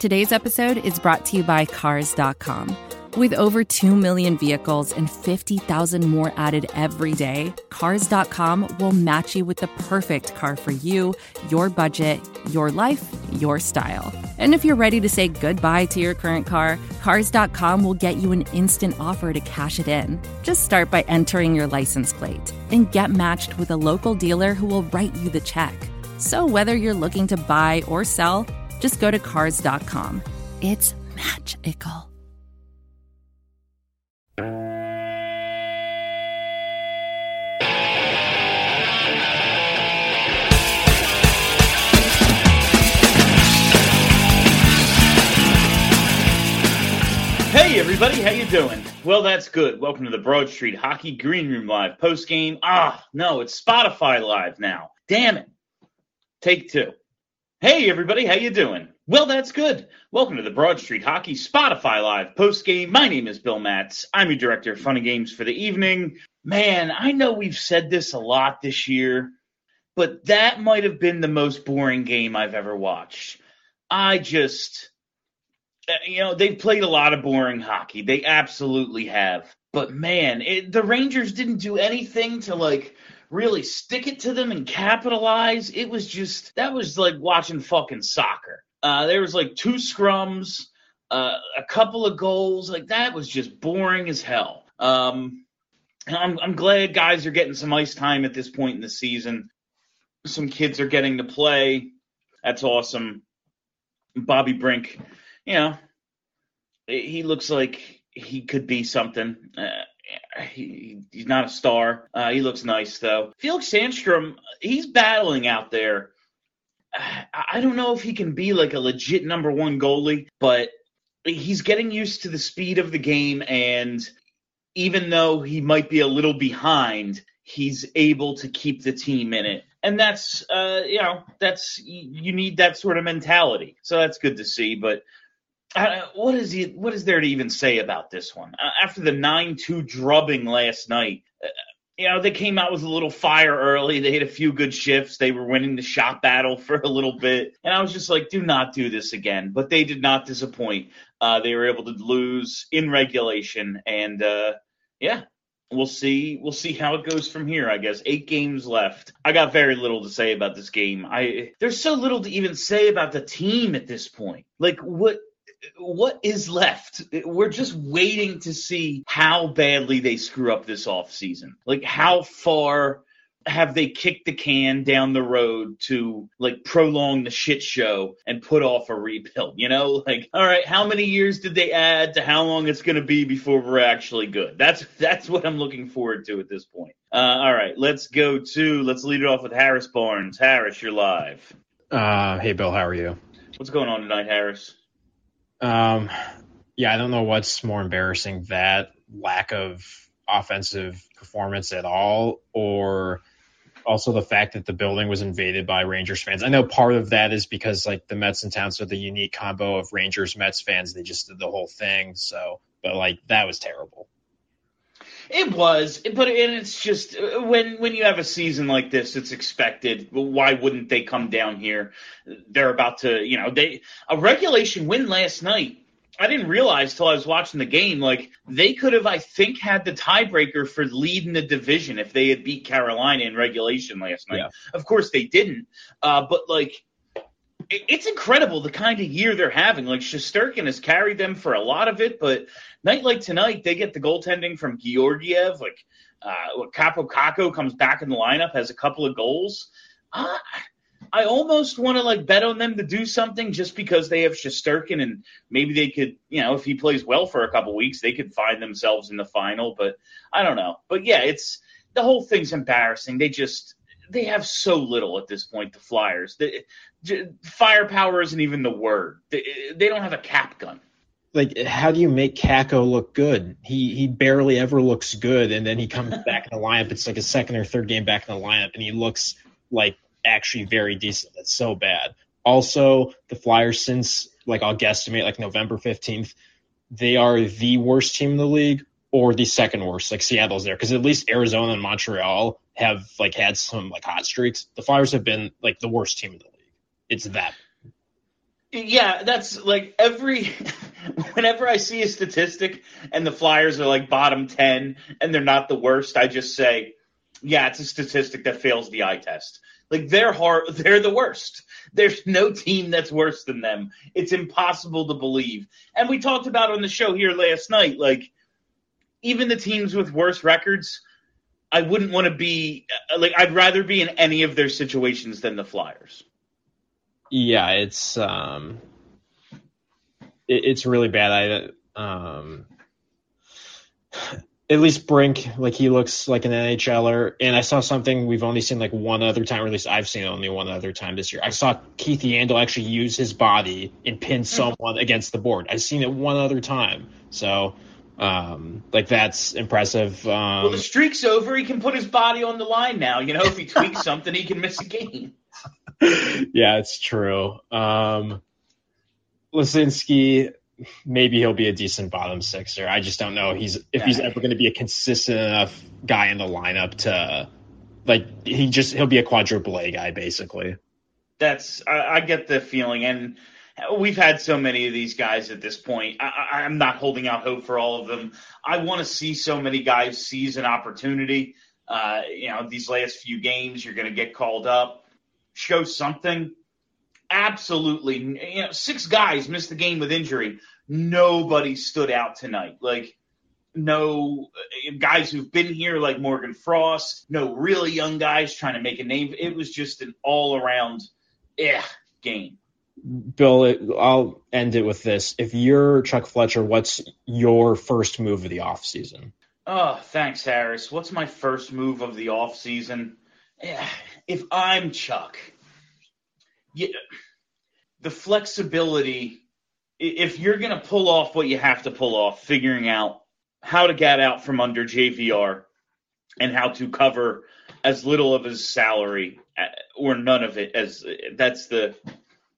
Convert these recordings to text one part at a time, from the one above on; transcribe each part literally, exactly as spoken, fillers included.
Today's episode is brought to you by Cars dot com. With over two million vehicles and fifty thousand more added every day, Cars dot com will match you with the perfect car for you, your budget, your life, your style. And if you're ready to say goodbye to your current car, Cars dot com will get you an instant offer to cash it in. Just start by entering your license plate and get matched with a local dealer who will write you the check. So whether you're looking to buy or sell, just go to Cars dot com. It's magical. Hey everybody, how you doing? Well, that's good. Welcome to the Broad Street Hockey Green Room Live post-game. Ah, no, it's Spotify Live now. Damn it. Take two. Hey everybody, how you doing? Well, that's good. Welcome to the Broad Street Hockey Spotify Live post-game. My name is Bill Matz. I'm your director of fun and games for the evening. Man, I know we've said this a lot this year, but that might have been the most boring game I've ever watched. I just... You know, they've played a lot of boring hockey. They absolutely have. But, man, it, the Rangers didn't do anything to, like, really stick it to them and capitalize. It was just – that was like watching fucking soccer. Uh, there was, like, two scrums, uh, a couple of goals. Like, that was just boring as hell. Um, and I'm, I'm glad guys are getting some ice time at this point in the season. Some kids are getting to play. That's awesome. Bobby Brink – you know, he looks like he could be something. Uh, he, he's not a star. Uh, he looks nice, though. Felix Sandstrom, he's battling out there. I, I don't know if he can be like a legit number one goalie, but he's getting used to the speed of the game, and even though he might be a little behind, he's able to keep the team in it. And that's, uh, you know, that's you need that sort of mentality. So that's good to see, but Uh, what is he? What is there to even say about this one? Uh, after the nine two drubbing last night, uh, you know, they came out with a little fire early. They had a few good shifts. They were winning the shot battle for a little bit. And I was just like, do not do this again. But they did not disappoint. Uh, they were able to lose in regulation. And, uh, yeah, we'll see. We'll see how it goes from here, I guess. Eight games left. I got very little to say about this game. I There's so little to even say about the team at this point. Like, what? What is left? We're just waiting to see how badly they screw up this offseason. Like, how far have they kicked the can down the road to, like, prolong the shit show and put off a rebuild? You know, like, all right, how many years did they add to how long it's going to be before we're actually good? That's that's what I'm looking forward to at this point. Uh, all right, let's go to, let's lead it off with Harris Barnes. Harris, you're live. Uh, hey, Bill, how are you? What's going on tonight, Harris? Um, yeah, I don't know what's more embarrassing, that lack of offensive performance at all, or also the fact that the building was invaded by Rangers fans. I know part of that is because, like, the Mets and Towns are the unique combo of Rangers Mets fans. They just did the whole thing. So, but like, that was terrible. It was, but and it's just when when you have a season like this, it's expected. Why wouldn't they come down here? They're about to, you know, they a regulation win last night. I didn't realize till I was watching the game, like, they could have, I think, had the tiebreaker for leading the division if they had beat Carolina in regulation last night. Yeah. Of course they didn't, uh, but like, it's incredible the kind of year they're having. Like, Shesterkin has carried them for a lot of it, but night like tonight, they get the goaltending from Georgiev. Like, uh, Capo Caco comes back in the lineup, has a couple of goals. Uh, I almost want to, like, bet on them to do something just because they have Shesterkin, and maybe they could, you know, if he plays well for a couple weeks, they could find themselves in the final. But I don't know. But, yeah, it's the whole thing's embarrassing. They just – they have so little at this point, the Flyers. The, firepower isn't even the word. They, they don't have a cap gun. Like, how do you make Kakko look good? He he barely ever looks good, and then he comes back in the lineup. It's like a second or third game back in the lineup, and he looks like actually very decent. It's so bad. Also, the Flyers, since, like, I'll guesstimate, like, November fifteenth, they are the worst team in the league or the second worst. Like, Seattle's there, because at least Arizona and Montreal have, like, had some, like, hot streaks. The Flyers have been, like, the worst team in the league. It's that. Yeah, that's like every – whenever I see a statistic and the Flyers are like bottom ten and they're not the worst, I just say, yeah, it's a statistic that fails the eye test. Like they're hard, they're the worst. There's no team that's worse than them. It's impossible to believe. And we talked about on the show here last night, like even the teams with worse records, I wouldn't want to be – like I'd rather be in any of their situations than the Flyers. Yeah, it's um, it, it's really bad. I um, at least Brink, like he looks like an N H L er, and I saw something we've only seen like one other time, or at least I've seen it only one other time this year. I saw Keith Yandel actually use his body and pin someone against the board. I've seen it one other time, so um, like that's impressive. Um, well, the streak's over. He can put his body on the line now. You know, if he tweaks something, he can miss a game. Yeah, it's true. Um, Lisinski, maybe he'll be a decent bottom sixer. I just don't know he's if he's ever going to be a consistent enough guy in the lineup to like he just he'll be a quadruple A guy basically. That's I, I get the feeling, and we've had so many of these guys at this point. I, I'm not holding out hope for all of them. I want to see so many guys seize an opportunity. Uh, you know, these last few games, you're going to get called up. Show something. Absolutely. You know, six guys missed the game with injury. Nobody stood out tonight. Like, no guys who've been here like Morgan Frost, no really young guys trying to make a name. It was just an all-around eh, game. Bill, it, I'll end it with this. If you're Chuck Fletcher, what's your first move of the offseason? Oh, thanks, Harris. What's my first move of the offseason? If I'm Chuck, yeah, the flexibility, if you're going to pull off what you have to pull off, figuring out how to get out from under J V R and how to cover as little of his salary or none of it, as that's the –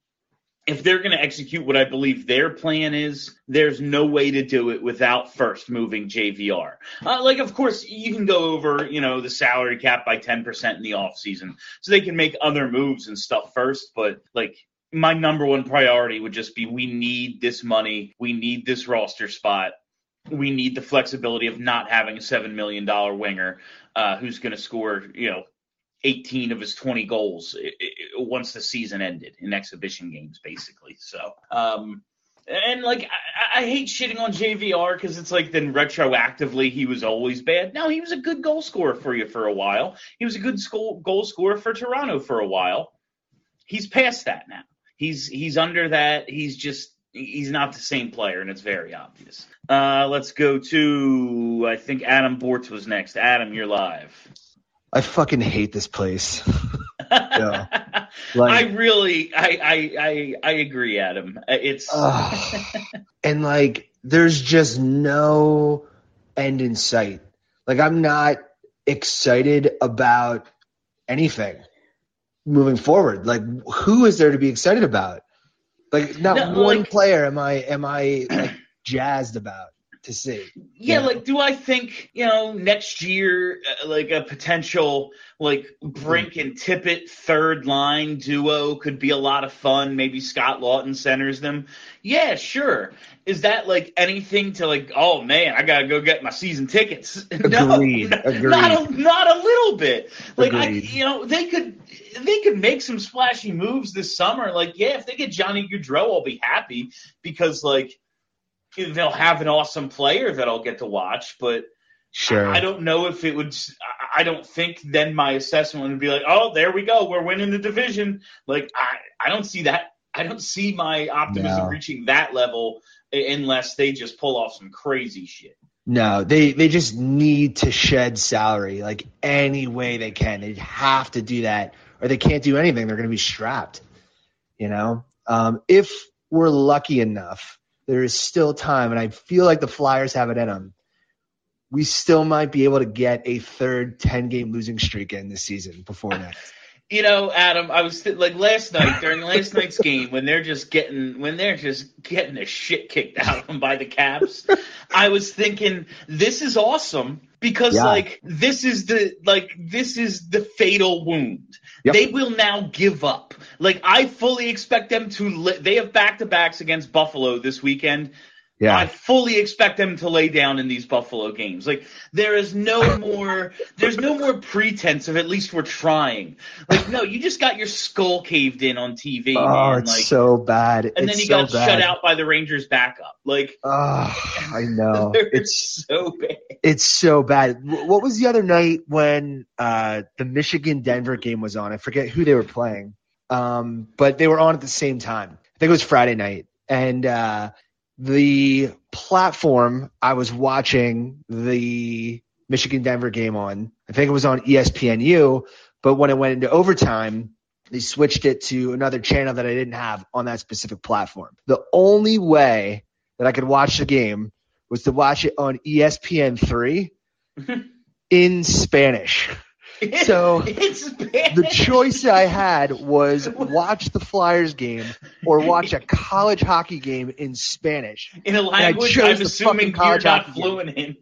if they're going to execute what I believe their plan is, there's no way to do it without first moving J V R. Uh, like, of course, you can go over, you know, the salary cap by ten percent in the offseason, so they can make other moves and stuff first. But, like, my number one priority would just be we need this money. We need this roster spot. We need the flexibility of not having a seven million dollars winger uh, who's going to score, you know, eighteen of his twenty goals it, it, once the season ended in exhibition games, basically. So, um, and like, I, I hate shitting on J V R because it's like then retroactively he was always bad. No, he was a good goal scorer for you for a while. He was a good goal, goal scorer for Toronto for a while. He's past that now. He's, he's under that. He's just, he's not the same player, and it's very obvious. Uh, let's go to, I think Adam Bortz was next. Adam, you're live. I fucking hate this place. Yeah. Like, I really, I, I, I, I agree, Adam. It's uh, and like, there's just no end in sight. Like, I'm not excited about anything moving forward. Like, who is there to be excited about? Like, not no, one like, player am I am I like jazzed about to see. Yeah, know? like, do I think, you know, next year, uh, like a potential, like, Brink and Tippett third line duo could be a lot of fun. Maybe Scott Lawton centers them. Yeah, sure. Is that, like, anything to, like, oh, man, I got to go get my season tickets? No, Agreed. not, Agreed. Not a, not a little bit. Like, I, Agreed. you know, they could they could make some splashy moves this summer. Like, yeah, if they get Johnny Gaudreau, I'll be happy because, like, they'll have an awesome player that I'll get to watch, but sure. I don't know if it would – I don't think then my assessment would be like, oh, there we go. We're winning the division. Like, I, I don't see that. I don't see my optimism No. reaching that level unless they just pull off some crazy shit. No, they, they just need to shed salary like any way they can. They have to do that or they can't do anything. They're going to be strapped, you know. Um, if we're lucky enough – there is still time, and I feel like the Flyers have it in them. We still might be able to get a third ten-game losing streak in this season before next. You know, Adam, I was th- like last night during last night's game when they're just getting when they're just getting the shit kicked out of them by the Caps. I was thinking this is awesome because Yeah. like this is the like this is the fatal wound. Yep. They will now give up. Like I fully expect them to. Li- they have back to backs against Buffalo this weekend. Yeah. I fully expect them to lay down in these Buffalo games. Like there is no more, there's no more pretense of at least we're trying. Like no, you just got your skull caved in on T V. Oh, man. it's like, so bad. and then it's you so got bad. shut out by the Rangers backup. Like Oh, I know. they're It's so bad. it's so bad. W- What was the other night when uh, the Michigan Denver game was on? I forget who they were playing, um, but they were on at the same time. I think it was Friday night, and uh, the platform I was watching the Michigan Denver game on, I think it was on E S P N U, but when it went into overtime, they switched it to another channel that I didn't have on that specific platform. The only way that I could watch the game was to watch it on E S P N three in Spanish. So it's bad. the choice I had was watch the Flyers game or watch a college hockey game in Spanish. in a language chose I'm the assuming fucking you're college not hockey game. fluent in.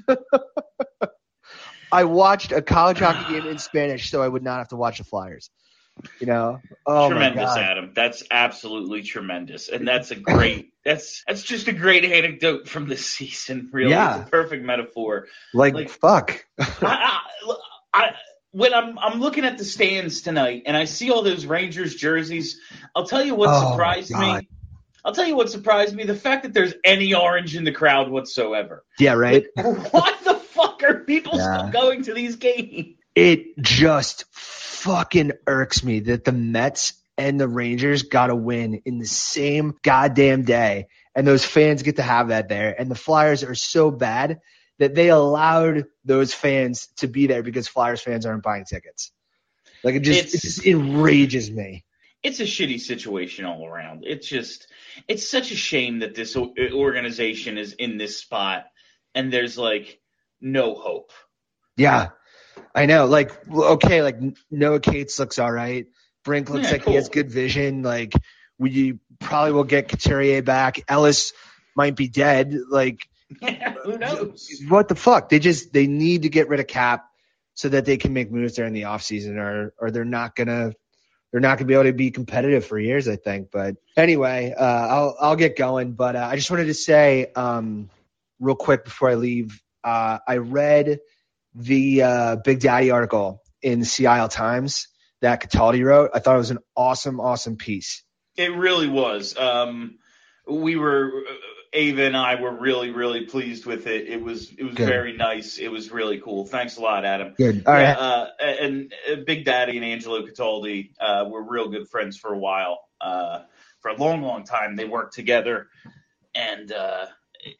I watched a college hockey game in Spanish so I would not have to watch the Flyers. You know? Oh Tremendous, my God. Adam. That's absolutely tremendous, and that's a great. That's that's just a great anecdote from this season. Really, Yeah. it's a perfect metaphor. Like, Like- fuck. I, I, I, when I'm I'm looking at the stands tonight, and I see all those Rangers jerseys, I'll tell you what Oh, surprised my me. I'll tell you what surprised me: the fact that there's any orange in the crowd whatsoever. Yeah, right? Why the fuck are people Yeah. still going to these games? It just fucking irks me that the Mets and the Rangers got to win in the same goddamn day, and those fans get to have that there. And the Flyers are so bad that they allowed those fans to be there because Flyers fans aren't buying tickets. Like it just, It's- it just enrages me. It's a shitty situation all around. It's just, it's such a shame that this o- organization is in this spot and there's like no hope. Yeah, I know. Like, okay, like Noah Cates looks all right. Brink looks Yeah, like cool. he has good vision. Like, we probably will get Couturier back. Ellis might be dead. Like, Who knows? what the fuck? They just they need to get rid of Cap so that they can make moves during the offseason, or or they're not gonna they're not gonna be able to be competitive for years, I think. But anyway, uh, I'll I'll get going. But uh, I just wanted to say um, real quick before I leave, uh, I read the uh, Big Daddy article in the Seattle Times that Cataldi wrote. I thought it was an awesome, awesome piece. It really was. Um, we were, Ava and I were really, really pleased with it. It was, it was Good. very nice. It was really cool. Thanks a lot, Adam. Good. All Yeah, right. uh, and uh, Big Daddy and Angelo Cataldi uh, were real good friends for a while. Uh, for a long, long time, they worked together, and uh, it,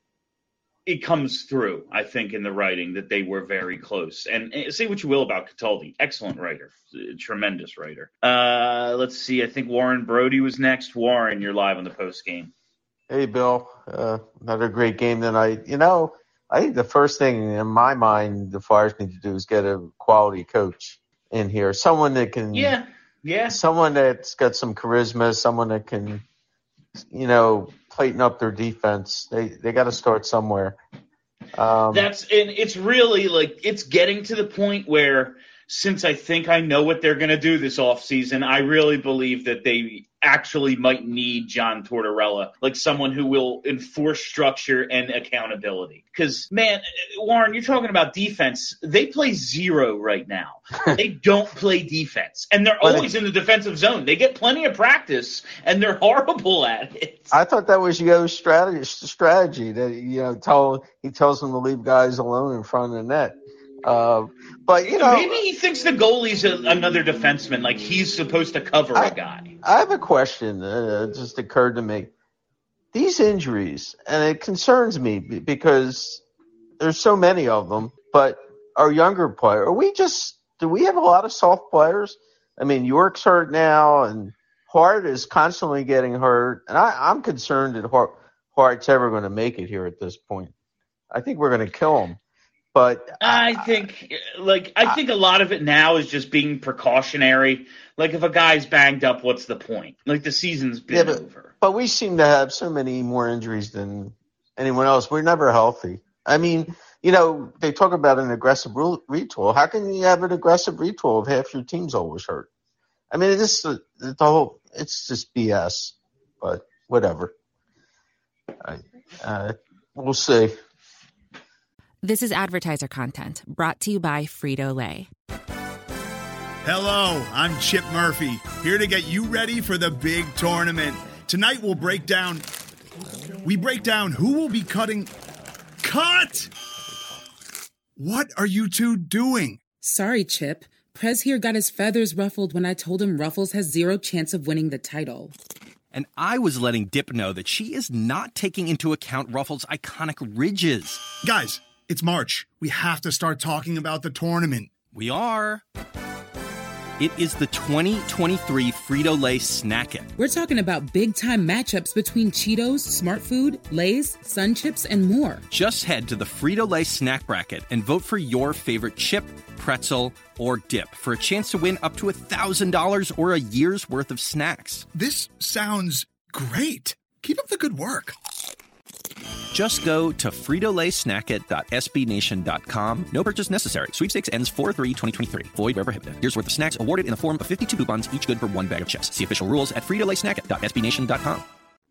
it comes through, I think, in the writing that they were very close. And, and say what you will about Cataldi, excellent writer, tremendous writer. Uh, let's see. I think Warren Brody was next. Warren, you're live on the post game. Hey, Bill. Uh, another great game tonight. You know, I think the first thing in my mind the Flyers need to do is get a quality coach in here, someone that can, Yeah, yeah. someone that's got some charisma, someone that can, you know, tighten up their defense. They they got to start somewhere. Um, That's and it's really like it's getting to the point where since I think I know what they're going to do this offseason, I really believe that they actually might need John Tortorella, like someone who will enforce structure and accountability. Because, man, Warren, you're talking about defense. They play zero right now. They don't play defense. And they're But always in the defensive zone. They get plenty of practice, and they're horrible at it. I thought that was Yo's strategy. Strategy that you know, tell he tells them to leave guys alone in front of the net. Uh, but you know, Maybe he thinks the goalie's a, another defenseman, like he's supposed to cover I- a guy. I have a question that uh, just occurred to me. These injuries, and it concerns me b- because there's so many of them, but our younger player, are we just, do we have a lot of soft players? I mean, York's hurt now, and Hart is constantly getting hurt, and I, I'm concerned that Hart, Hart's ever going to make it here at this point. I think we're going to kill him. But I think, like, I think a lot of it now is just being precautionary. Like, if a guy's banged up, what's the point? Like, the season's been yeah, but, over. but we seem to have so many more injuries than anyone else. We're never healthy. I mean, you know, they talk about an aggressive re- retool. How can you have an aggressive retool if half your team's always hurt? I mean, it's just the whole. It's just B S. But whatever. I, uh, we'll see. This is advertiser content brought to you by Frito-Lay. Hello, I'm Chip Murphy, here to get you ready for the big tournament. Tonight we'll break down, we break down who will be cutting, cut! What are you two doing? Sorry, Chip. Prez here got his feathers ruffled when I told him Ruffles has zero chance of winning the title. And I was letting Dip know that she is not taking into account Ruffles' iconic ridges. Guys, it's March. We have to start talking about the tournament. We are. It is the twenty twenty-three Frito-Lay Snack It. We're talking about big-time matchups between Cheetos, Smart Food, Lay's, Sun Chips, and more. Just head to the Frito-Lay Snack Bracket and vote for your favorite chip, pretzel, or dip for a chance to win up to one thousand dollars or a year's worth of snacks. This sounds great. Keep up the good work. Just go to Frito Lay Snack It dot S B Nation dot com. No purchase necessary. Sweepstakes ends four three twenty twenty-three. Void where prohibited. Here's worth of snacks awarded in the form of fifty-two coupons, each good for one bag of chips. See official rules at Frito Lay Snack It dot S B Nation dot com.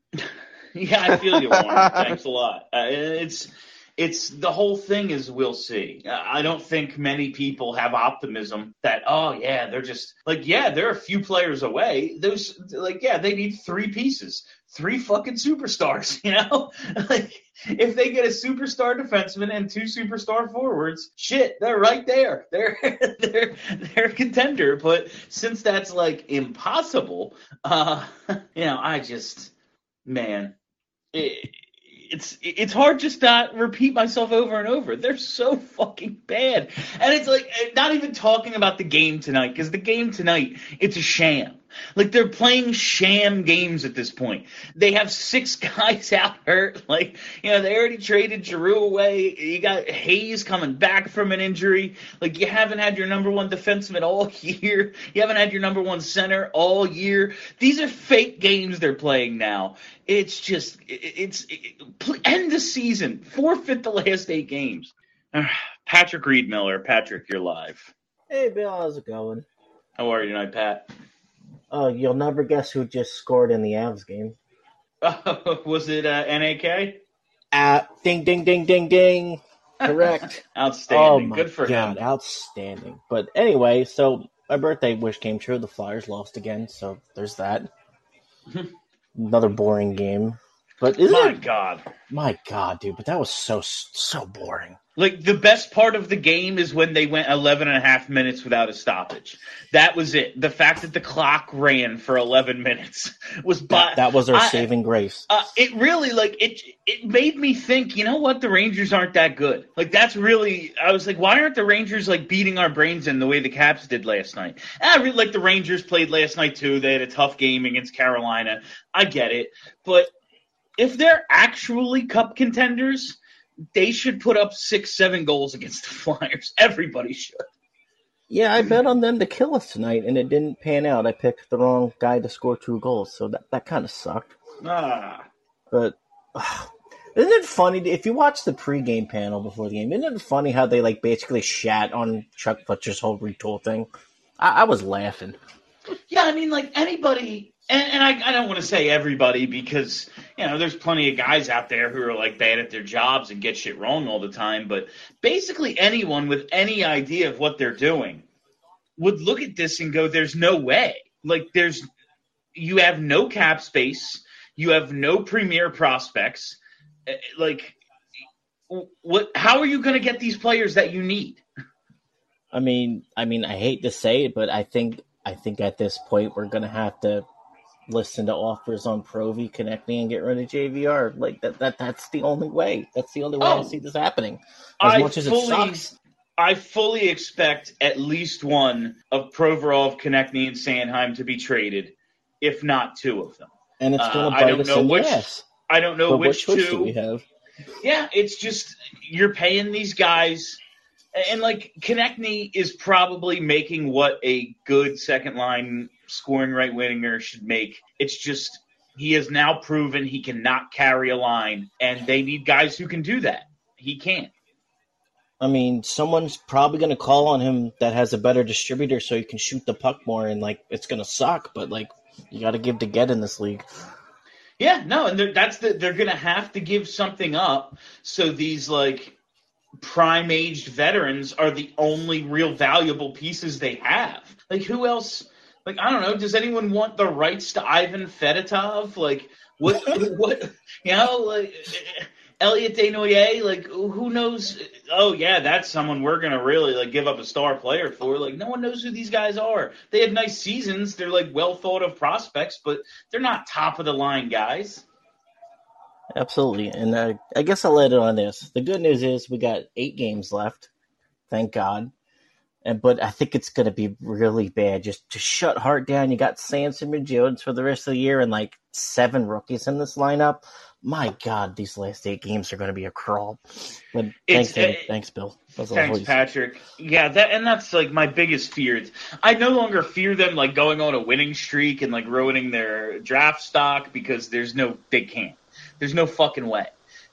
Yeah, I feel you, Warren. Thanks a lot. Uh, it's it's the whole thing is we'll see. I don't think many people have optimism that, oh, yeah, they're just like, yeah, they're a few players away. Those like, yeah, they need three pieces. Three fucking superstars, you know? Like, if they get a superstar defenseman and two superstar forwards, shit, they're right there. They're they're they're a contender. But since that's like impossible, uh, you know, I just, man, it, it's it's hard just not repeat myself over and over. They're so fucking bad, and it's like not even talking about the game tonight because the game tonight it's a sham. Like, they're playing sham games at this point. They have six guys out hurt. Like, you know, they already traded Giroux away. You got Hayes coming back from an injury. Like, you haven't had your number one defenseman all year. You haven't had your number one center all year. These are fake games they're playing now. It's just, it's, it, end the season. Forfeit the last eight games. Patrick Reed Miller. Patrick, you're live. Hey, Bill, how's it going? How are you tonight, Pat? Oh, you'll never guess who just scored in the Avs game. Uh, was it uh, N A K? Uh, ding, ding, ding, ding, ding. Correct. Outstanding. Oh my Good for God, him. Outstanding. But anyway, so my birthday wish came true. The Flyers lost again, so there's that. Another boring game. But isn't My it? God. My God, dude, but that was so, so boring. Like, the best part of the game is when they went eleven and a half minutes without a stoppage. That was it. The fact that the clock ran for eleven minutes was by, That, that was our I- saving grace. Uh, it really, like, it it made me think, you know what, the Rangers aren't that good. Like, that's really, I was like, why aren't the Rangers, like, beating our brains in the way the Caps did last night? And I really like the Rangers played last night, too. They had a tough game against Carolina. I get it. But if they're actually cup contenders, they should put up six, seven goals against the Flyers. Everybody should. Yeah, I bet on them to kill us tonight, and it didn't pan out. I picked the wrong guy to score two goals, so that, that kind of sucked. Ah. But uh, isn't it funny, if you watch the pregame panel before the game, isn't it funny how they like basically shat on Chuck Fletcher's whole retool thing? I, I was laughing. Yeah, I mean, like, anybody, and, and I, I don't want to say everybody because, you know, there's plenty of guys out there who are, like, bad at their jobs and get shit wrong all the time, but basically anyone with any idea of what they're doing would look at this and go, there's no way. Like, there's, you have no cap space, you have no premier prospects, like, what? How are you going to get these players that you need? I mean, I mean, I hate to say it, but I think I think at this point we're gonna have to listen to offers on Provy, Konechny, and get rid of J V R. Like that, that that's the only way. That's the only way Oh. I see this happening. As I much as fully, it sucks. I fully expect at least one of Provorov, Konechny, and Sanheim to be traded, if not two of them. And it's Uh, gonna I bite don't us know in which- the ass. I don't know But which what choice two. do we have? Yeah, it's just you're paying these guys And, like, Konechny is probably making what a good second-line scoring right-winger should make. It's just he has now proven he cannot carry a line, and they need guys who can do that. He can't. I mean, someone's probably going to call on him that has a better distributor so he can shoot the puck more, and, like, it's going to suck, but, like, you got to give to get in this league. Yeah, no, and they're, that's the, they're going to have to give something up so these, like, prime-aged veterans are the only real valuable pieces they have. Like, who else? Like, I don't know. Does anyone want the rights to Ivan Fedotov? Like, what? what? You know, like Elliot Desnoyers. Like, who knows? Oh, yeah, that's someone we're gonna really like give up a star player for. Like, no one knows who these guys are. They had nice seasons. They're like well thought of prospects, but they're not top of the line guys. Absolutely, and uh, I guess I'll let it on this. The good news is we got eight games left, thank God. And but I think it's going to be really bad. Just to shut Hart down. You got Samson and Jones for the rest of the year, and like seven rookies in this lineup. My God, these last eight games are going to be a crawl. But thanks, uh, thanks, Bill. That's thanks, always. Patrick. Yeah, that and that's like my biggest fear. I no longer fear them like going on a winning streak and like ruining their draft stock because there's no, they can't. There's no fucking way.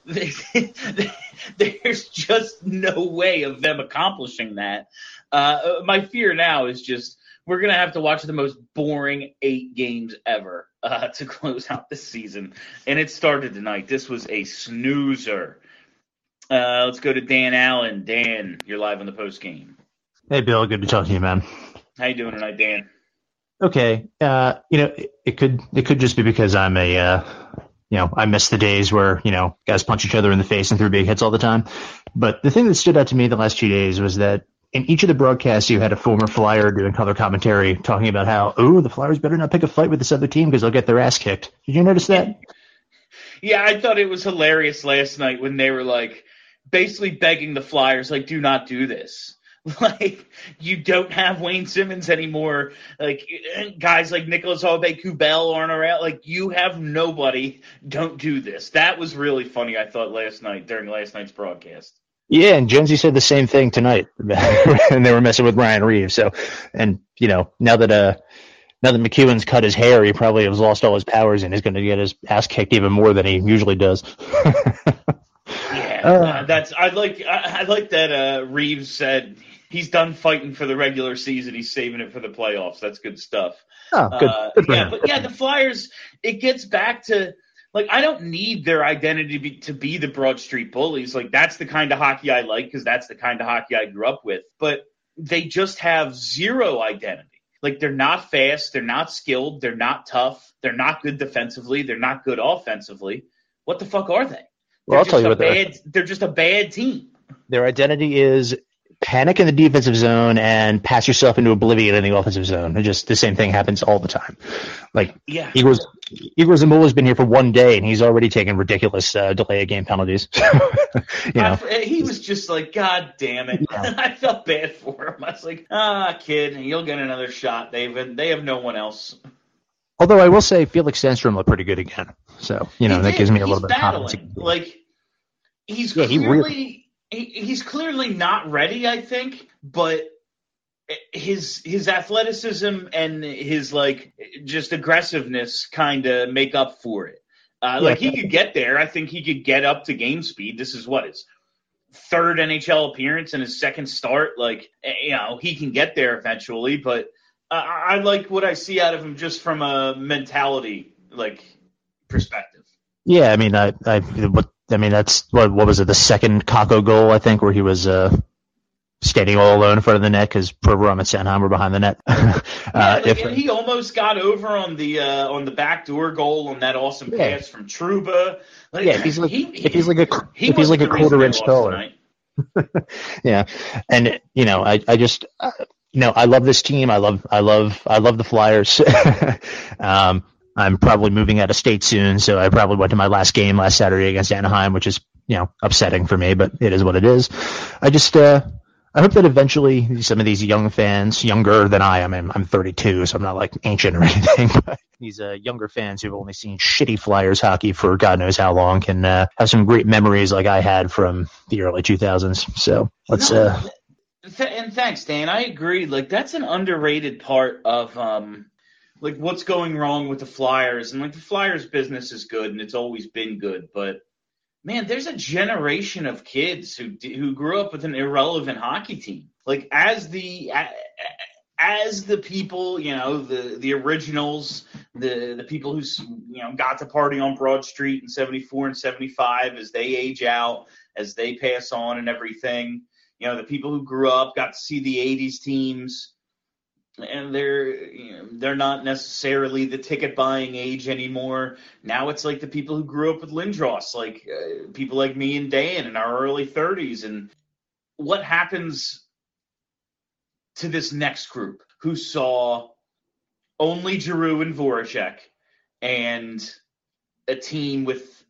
There's just no way of them accomplishing that. Uh, my fear now is just we're going to have to watch the most boring eight games ever uh, to close out this season. And it started tonight. This was a snoozer. Uh, let's go to Dan Allen. Dan, you're live on the post game. Hey, Bill. Good to talk to you, man. How you doing tonight, Dan? Okay. Uh, you know, it, it could it could just be because I'm a uh, – You know, I miss the days where, you know, guys punch each other in the face and threw big hits all the time. But the thing that stood out to me the last two days was that in each of the broadcasts, you had a former Flyer doing color commentary talking about how, oh, the Flyers better not pick a fight with this other team because they'll get their ass kicked. Did you notice that? Yeah, I thought it was hilarious last night when they were, like, basically begging the Flyers, like, do not do this. Like, you don't have Wayne Simmons anymore. Like, guys like Nicholas Aube-Kubel aren't around. Like, you have nobody. Don't do this. That was really funny, I thought, last night, during last night's broadcast. Yeah, and Jonesy said the same thing tonight. And they were messing with Ryan Reeves. So, and, you know, now that uh, now that McEwen's cut his hair, he probably has lost all his powers and is going to get his ass kicked even more than he usually does. Yeah, uh, that's I like I, I like that uh, Reeves said he's done fighting for the regular season. He's saving it for the playoffs. That's good stuff. Oh, good. Uh, good for yeah, him. but yeah, the Flyers. It gets back to like I don't need their identity to be, to be the Broad Street Bullies. Like that's the kind of hockey I like because that's the kind of hockey I grew up with. But they just have zero identity. Like they're not fast. They're not skilled. They're not tough. They're not good defensively. They're not good offensively. What the fuck are they? Well, I'll tell you what bad, they're just a bad team. Their identity is panic in the defensive zone and pass yourself into oblivion in the offensive zone. And just the same thing happens all the time. Like yeah. Igor, Igor Zamula's been here for one day and he's already taken ridiculous uh, delay of game penalties. you know, I, he was just like, God damn it! Yeah. I felt bad for him. I was like, ah, kid, you'll get another shot. They've they have no one else. Although I will say Felix Sandstrom looked pretty good again. So, you know, he that did. gives me a he's little bit battling. of confidence. Like, he's yeah, he clearly really... he, he's clearly not ready, I think, but his his athleticism and his, like, just aggressiveness kind of make up for it. Uh, yeah, like, he could get there. I think he could get up to game speed. This is what, his third N H L appearance and his second start. Like, you know, he can get there eventually, but uh, I like what I see out of him just from a mentality, like, perspective. Yeah, I mean, I, I, what, I mean, that's what, what was it? The second Kakko goal, I think, where he was uh, skating all alone in front of the net because Provorov and Sanheim were behind the net. uh, yeah, like, if, and he almost got over on the uh, on the backdoor goal on that awesome yeah. pass from Trouba. Like, yeah, if he's like, he, if he's like a, he if he's like a quarter inch taller. Yeah, and you know, I, I just, uh, you know, I love this team. I love, I love, I love the Flyers. um, I'm probably moving out of state soon, so I probably went to my last game last Saturday against Anaheim, which is, you know, upsetting for me, but it is what it is. I just, uh, I hope that eventually some of these young fans, younger than I am, I'm, I'm thirty-two, so I'm not like ancient or anything, but these uh, younger fans who've only seen shitty Flyers hockey for God knows how long can uh, have some great memories like I had from the early two thousands. So let's. No, uh, Th- and thanks, Dan. I agree. Like that's an underrated part of um, like what's going wrong with the Flyers, and like the Flyers business is good, and it's always been good, but man, there's a generation of kids who who grew up with an irrelevant hockey team. Like as the as the people, you know, the the originals, the the people who you know got to party on Broad Street in seventy-four and seventy-five, as they age out, as they pass on, and everything. You know, the people who grew up got to see the eighties teams, and they're you know, they're not necessarily the ticket buying age anymore. Now it's like the people who grew up with Lindros, like uh, people like me and Dan in our early thirties. And what happens to this next group who saw only Giroux and Voracek and a team with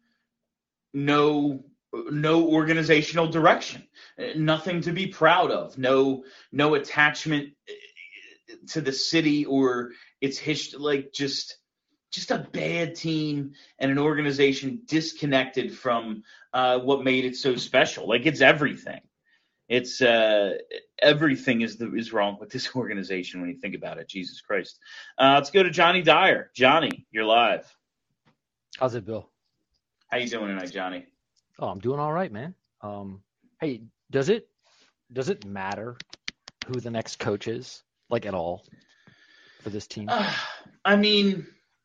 no no organizational direction, nothing to be proud of, no no attachment to the city or its history, like just just a bad team and an organization disconnected from uh, what made it so special. Like it's everything. It's uh, everything is the, is wrong with this organization when you think about it. Jesus Christ. Uh, let's go to Johnny Dyer. Johnny, you're live. How's it, Bill? How you doing tonight, Johnny? Oh, I'm doing all right, man. Um, hey, does it does it matter who the next coach is, like at all, for this team? Uh, I mean,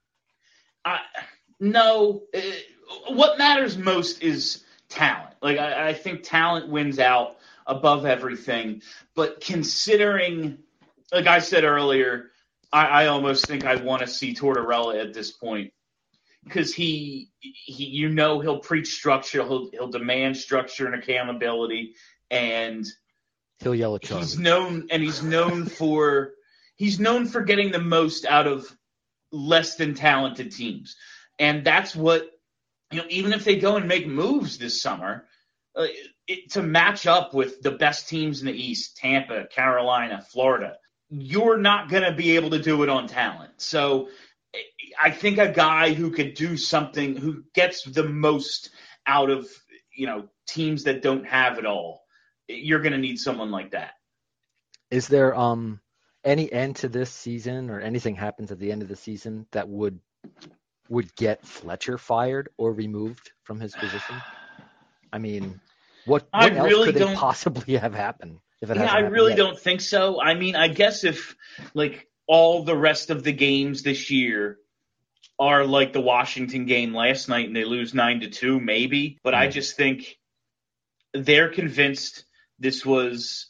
I, no. Uh, what matters most is talent. Like I, I think talent wins out above everything. But considering, like I said earlier, I, I almost think I want to see Tortorella at this point. Because he, he, you know, he'll preach structure, he'll he'll demand structure and accountability, and he'll yell at Charlie. He's known, and he's known for he's known for getting the most out of less than talented teams, and that's what you know. Even if they go and make moves this summer, uh, it, to match up with the best teams in the East, Tampa, Carolina, Florida, you're not going to be able to do it on talent. So. I think a guy who could do something, who gets the most out of, you know, teams that don't have it all, you're going to need someone like that. Is there um any end to this season or anything happens at the end of the season that would would get Fletcher fired or removed from his position? I mean, what, what I else really could don't, it possibly have happened? If it yeah, I really yet? don't think so. I mean, I guess if, like, all the rest of the games this year are like the Washington game last night and they lose nine to two, maybe. But mm. I just think they're convinced this was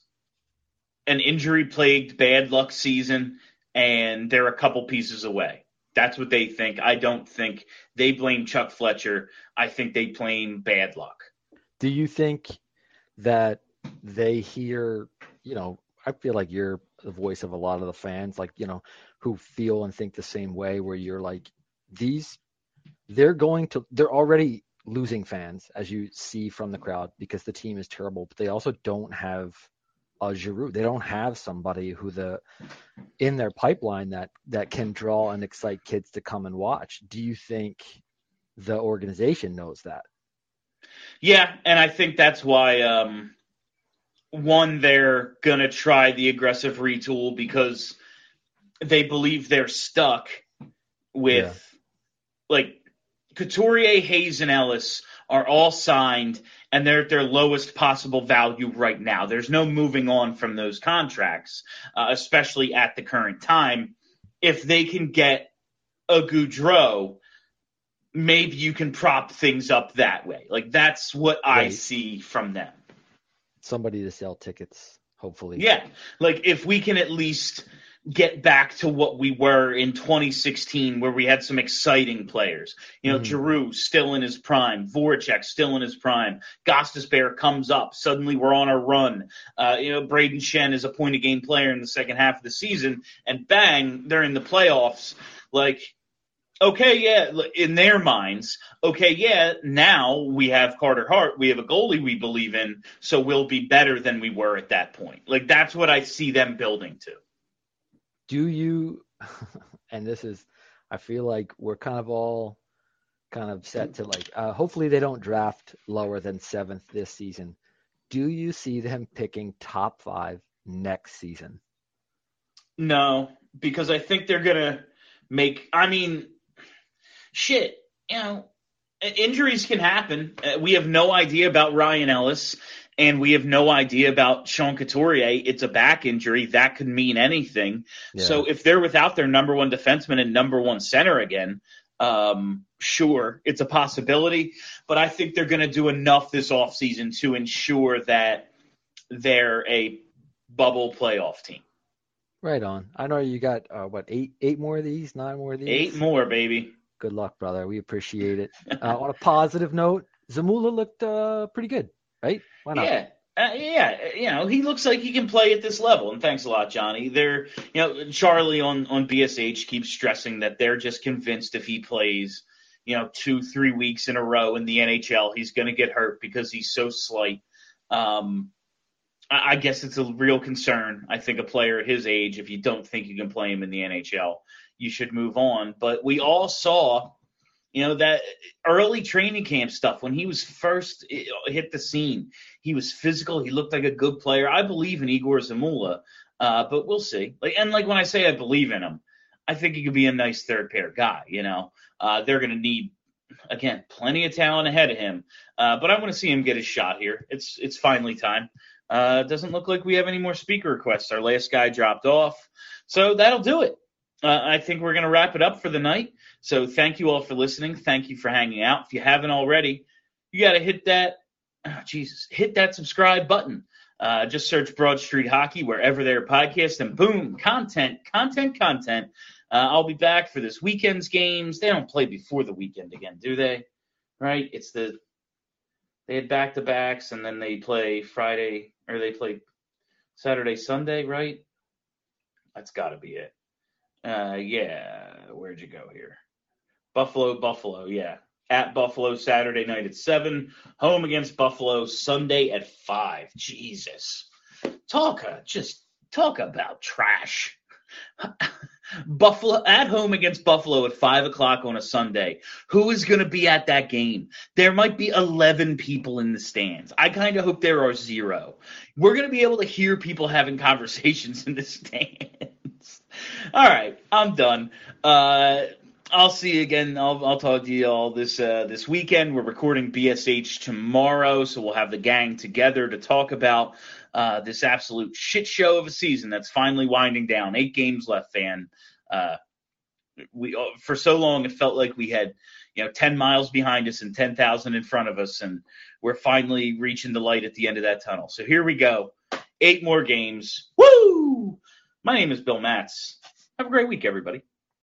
an injury-plagued bad luck season and they're a couple pieces away. That's what they think. I don't think they blame Chuck Fletcher. I think they blame bad luck. Do you think that they hear, you know, I feel like you're the voice of a lot of the fans, like, you know, who feel and think the same way, where you're like, these, they're going to, they're already losing fans, as you see from the crowd, because the team is terrible, but they also don't have a Giroux. They don't have somebody who the, in their pipeline that, that can draw and excite kids to come and watch. Do you think the organization knows that? Yeah. And I think that's why, um, one, they're going to try the aggressive retool because they believe they're stuck with, yeah. like, Couturier, Hayes, and Ellis are all signed, and they're at their lowest possible value right now. There's no moving on from those contracts, uh, especially at the current time. If they can get a Gaudreau, maybe you can prop things up that way. Like, that's what right. I see from them. Somebody to sell tickets, hopefully. Yeah. Like, if we can at least get back to what we were in twenty sixteen, where we had some exciting players. You know, mm-hmm. Giroux still in his prime, Voracek still in his prime, Gostisbehere comes up, suddenly we're on a run. Uh, you know, Braden Shen is a point-a-game player in the second half of the season, and bang, they're in the playoffs. Like, okay, yeah, in their minds, okay, yeah, now we have Carter Hart, we have a goalie we believe in, so we'll be better than we were at that point. Like, that's what I see them building to. Do you, and this is, I feel like we're kind of all kind of set to like, uh, hopefully they don't draft lower than seventh this season. Do you see them picking top five next season? No, because I think they're going to make – I mean, shit, you know, injuries can happen. We have no idea about Ryan Ellis, and we have no idea about Sean Couturier. It's a back injury. That could mean anything. Yeah. So if they're without their number one defenseman and number one center again, um, sure, it's a possibility. But I think they're going to do enough this offseason to ensure that they're a bubble playoff team. Right on. I know you got, uh, what, eight eight more of these, nine more of these? Eight more, baby. Good luck, brother. We appreciate it. Uh, on a positive note, Zamula looked uh, pretty good, right? Why not? Yeah. Uh, yeah, you know, he looks like he can play at this level, and thanks a lot, Johnny. They're, you know, Charlie on, on B S H keeps stressing that they're just convinced if he plays, you know, two, three weeks in a row in the N H L, he's going to get hurt because he's so slight. Um, I, I guess it's a real concern. I think a player at his age, if you don't think you can play him in the N H L, you should move on. But we all saw, you know, that early training camp stuff when he was first hit the scene. He was physical. He looked like a good player. I believe in Igor Zamula, uh, but we'll see. Like, and like when I say I believe in him, I think he could be a nice third pair guy. You know, uh, they're going to need, again, plenty of talent ahead of him. Uh, but I want to see him get his shot here. It's it's finally time. Uh, it doesn't look like we have any more speaker requests. Our last guy dropped off, so that'll do it. Uh, I think we're going to wrap it up for the night. So thank you all for listening. Thank you for hanging out. If you haven't already, you got to hit that, oh, Jesus, hit that subscribe button. Uh, just search Broad Street Hockey wherever there are podcasts, and boom, content, content, content. Uh, I'll be back for this weekend's games. They don't play before the weekend again, do they? Right? It's the they had back-to-backs, and then they play Friday, or they play Saturday, Sunday, right? That's got to be it. Uh, yeah, where'd you go here? Buffalo, Buffalo, yeah. At Buffalo Saturday night at seven. Home against Buffalo Sunday at five. Jesus. Talk, uh, just talk about trash. Buffalo at home against Buffalo at five o'clock on a Sunday. Who is going to be at that game? There might be eleven people in the stands. I kind of hope there are zero. We're going to be able to hear people having conversations in the stands. All right, I'm done. Uh, I'll see you again. I'll, I'll talk to you all this uh, this weekend. We're recording B S H tomorrow, so we'll have the gang together to talk about uh, this absolute shit show of a season that's finally winding down. Eight games left, fan. Uh, we for so long it felt like we had, you know, ten miles behind us and ten thousand in front of us, and we're finally reaching the light at the end of that tunnel. So here we go. Eight more games. Woo! My name is Bill Matz. Have a great week, everybody.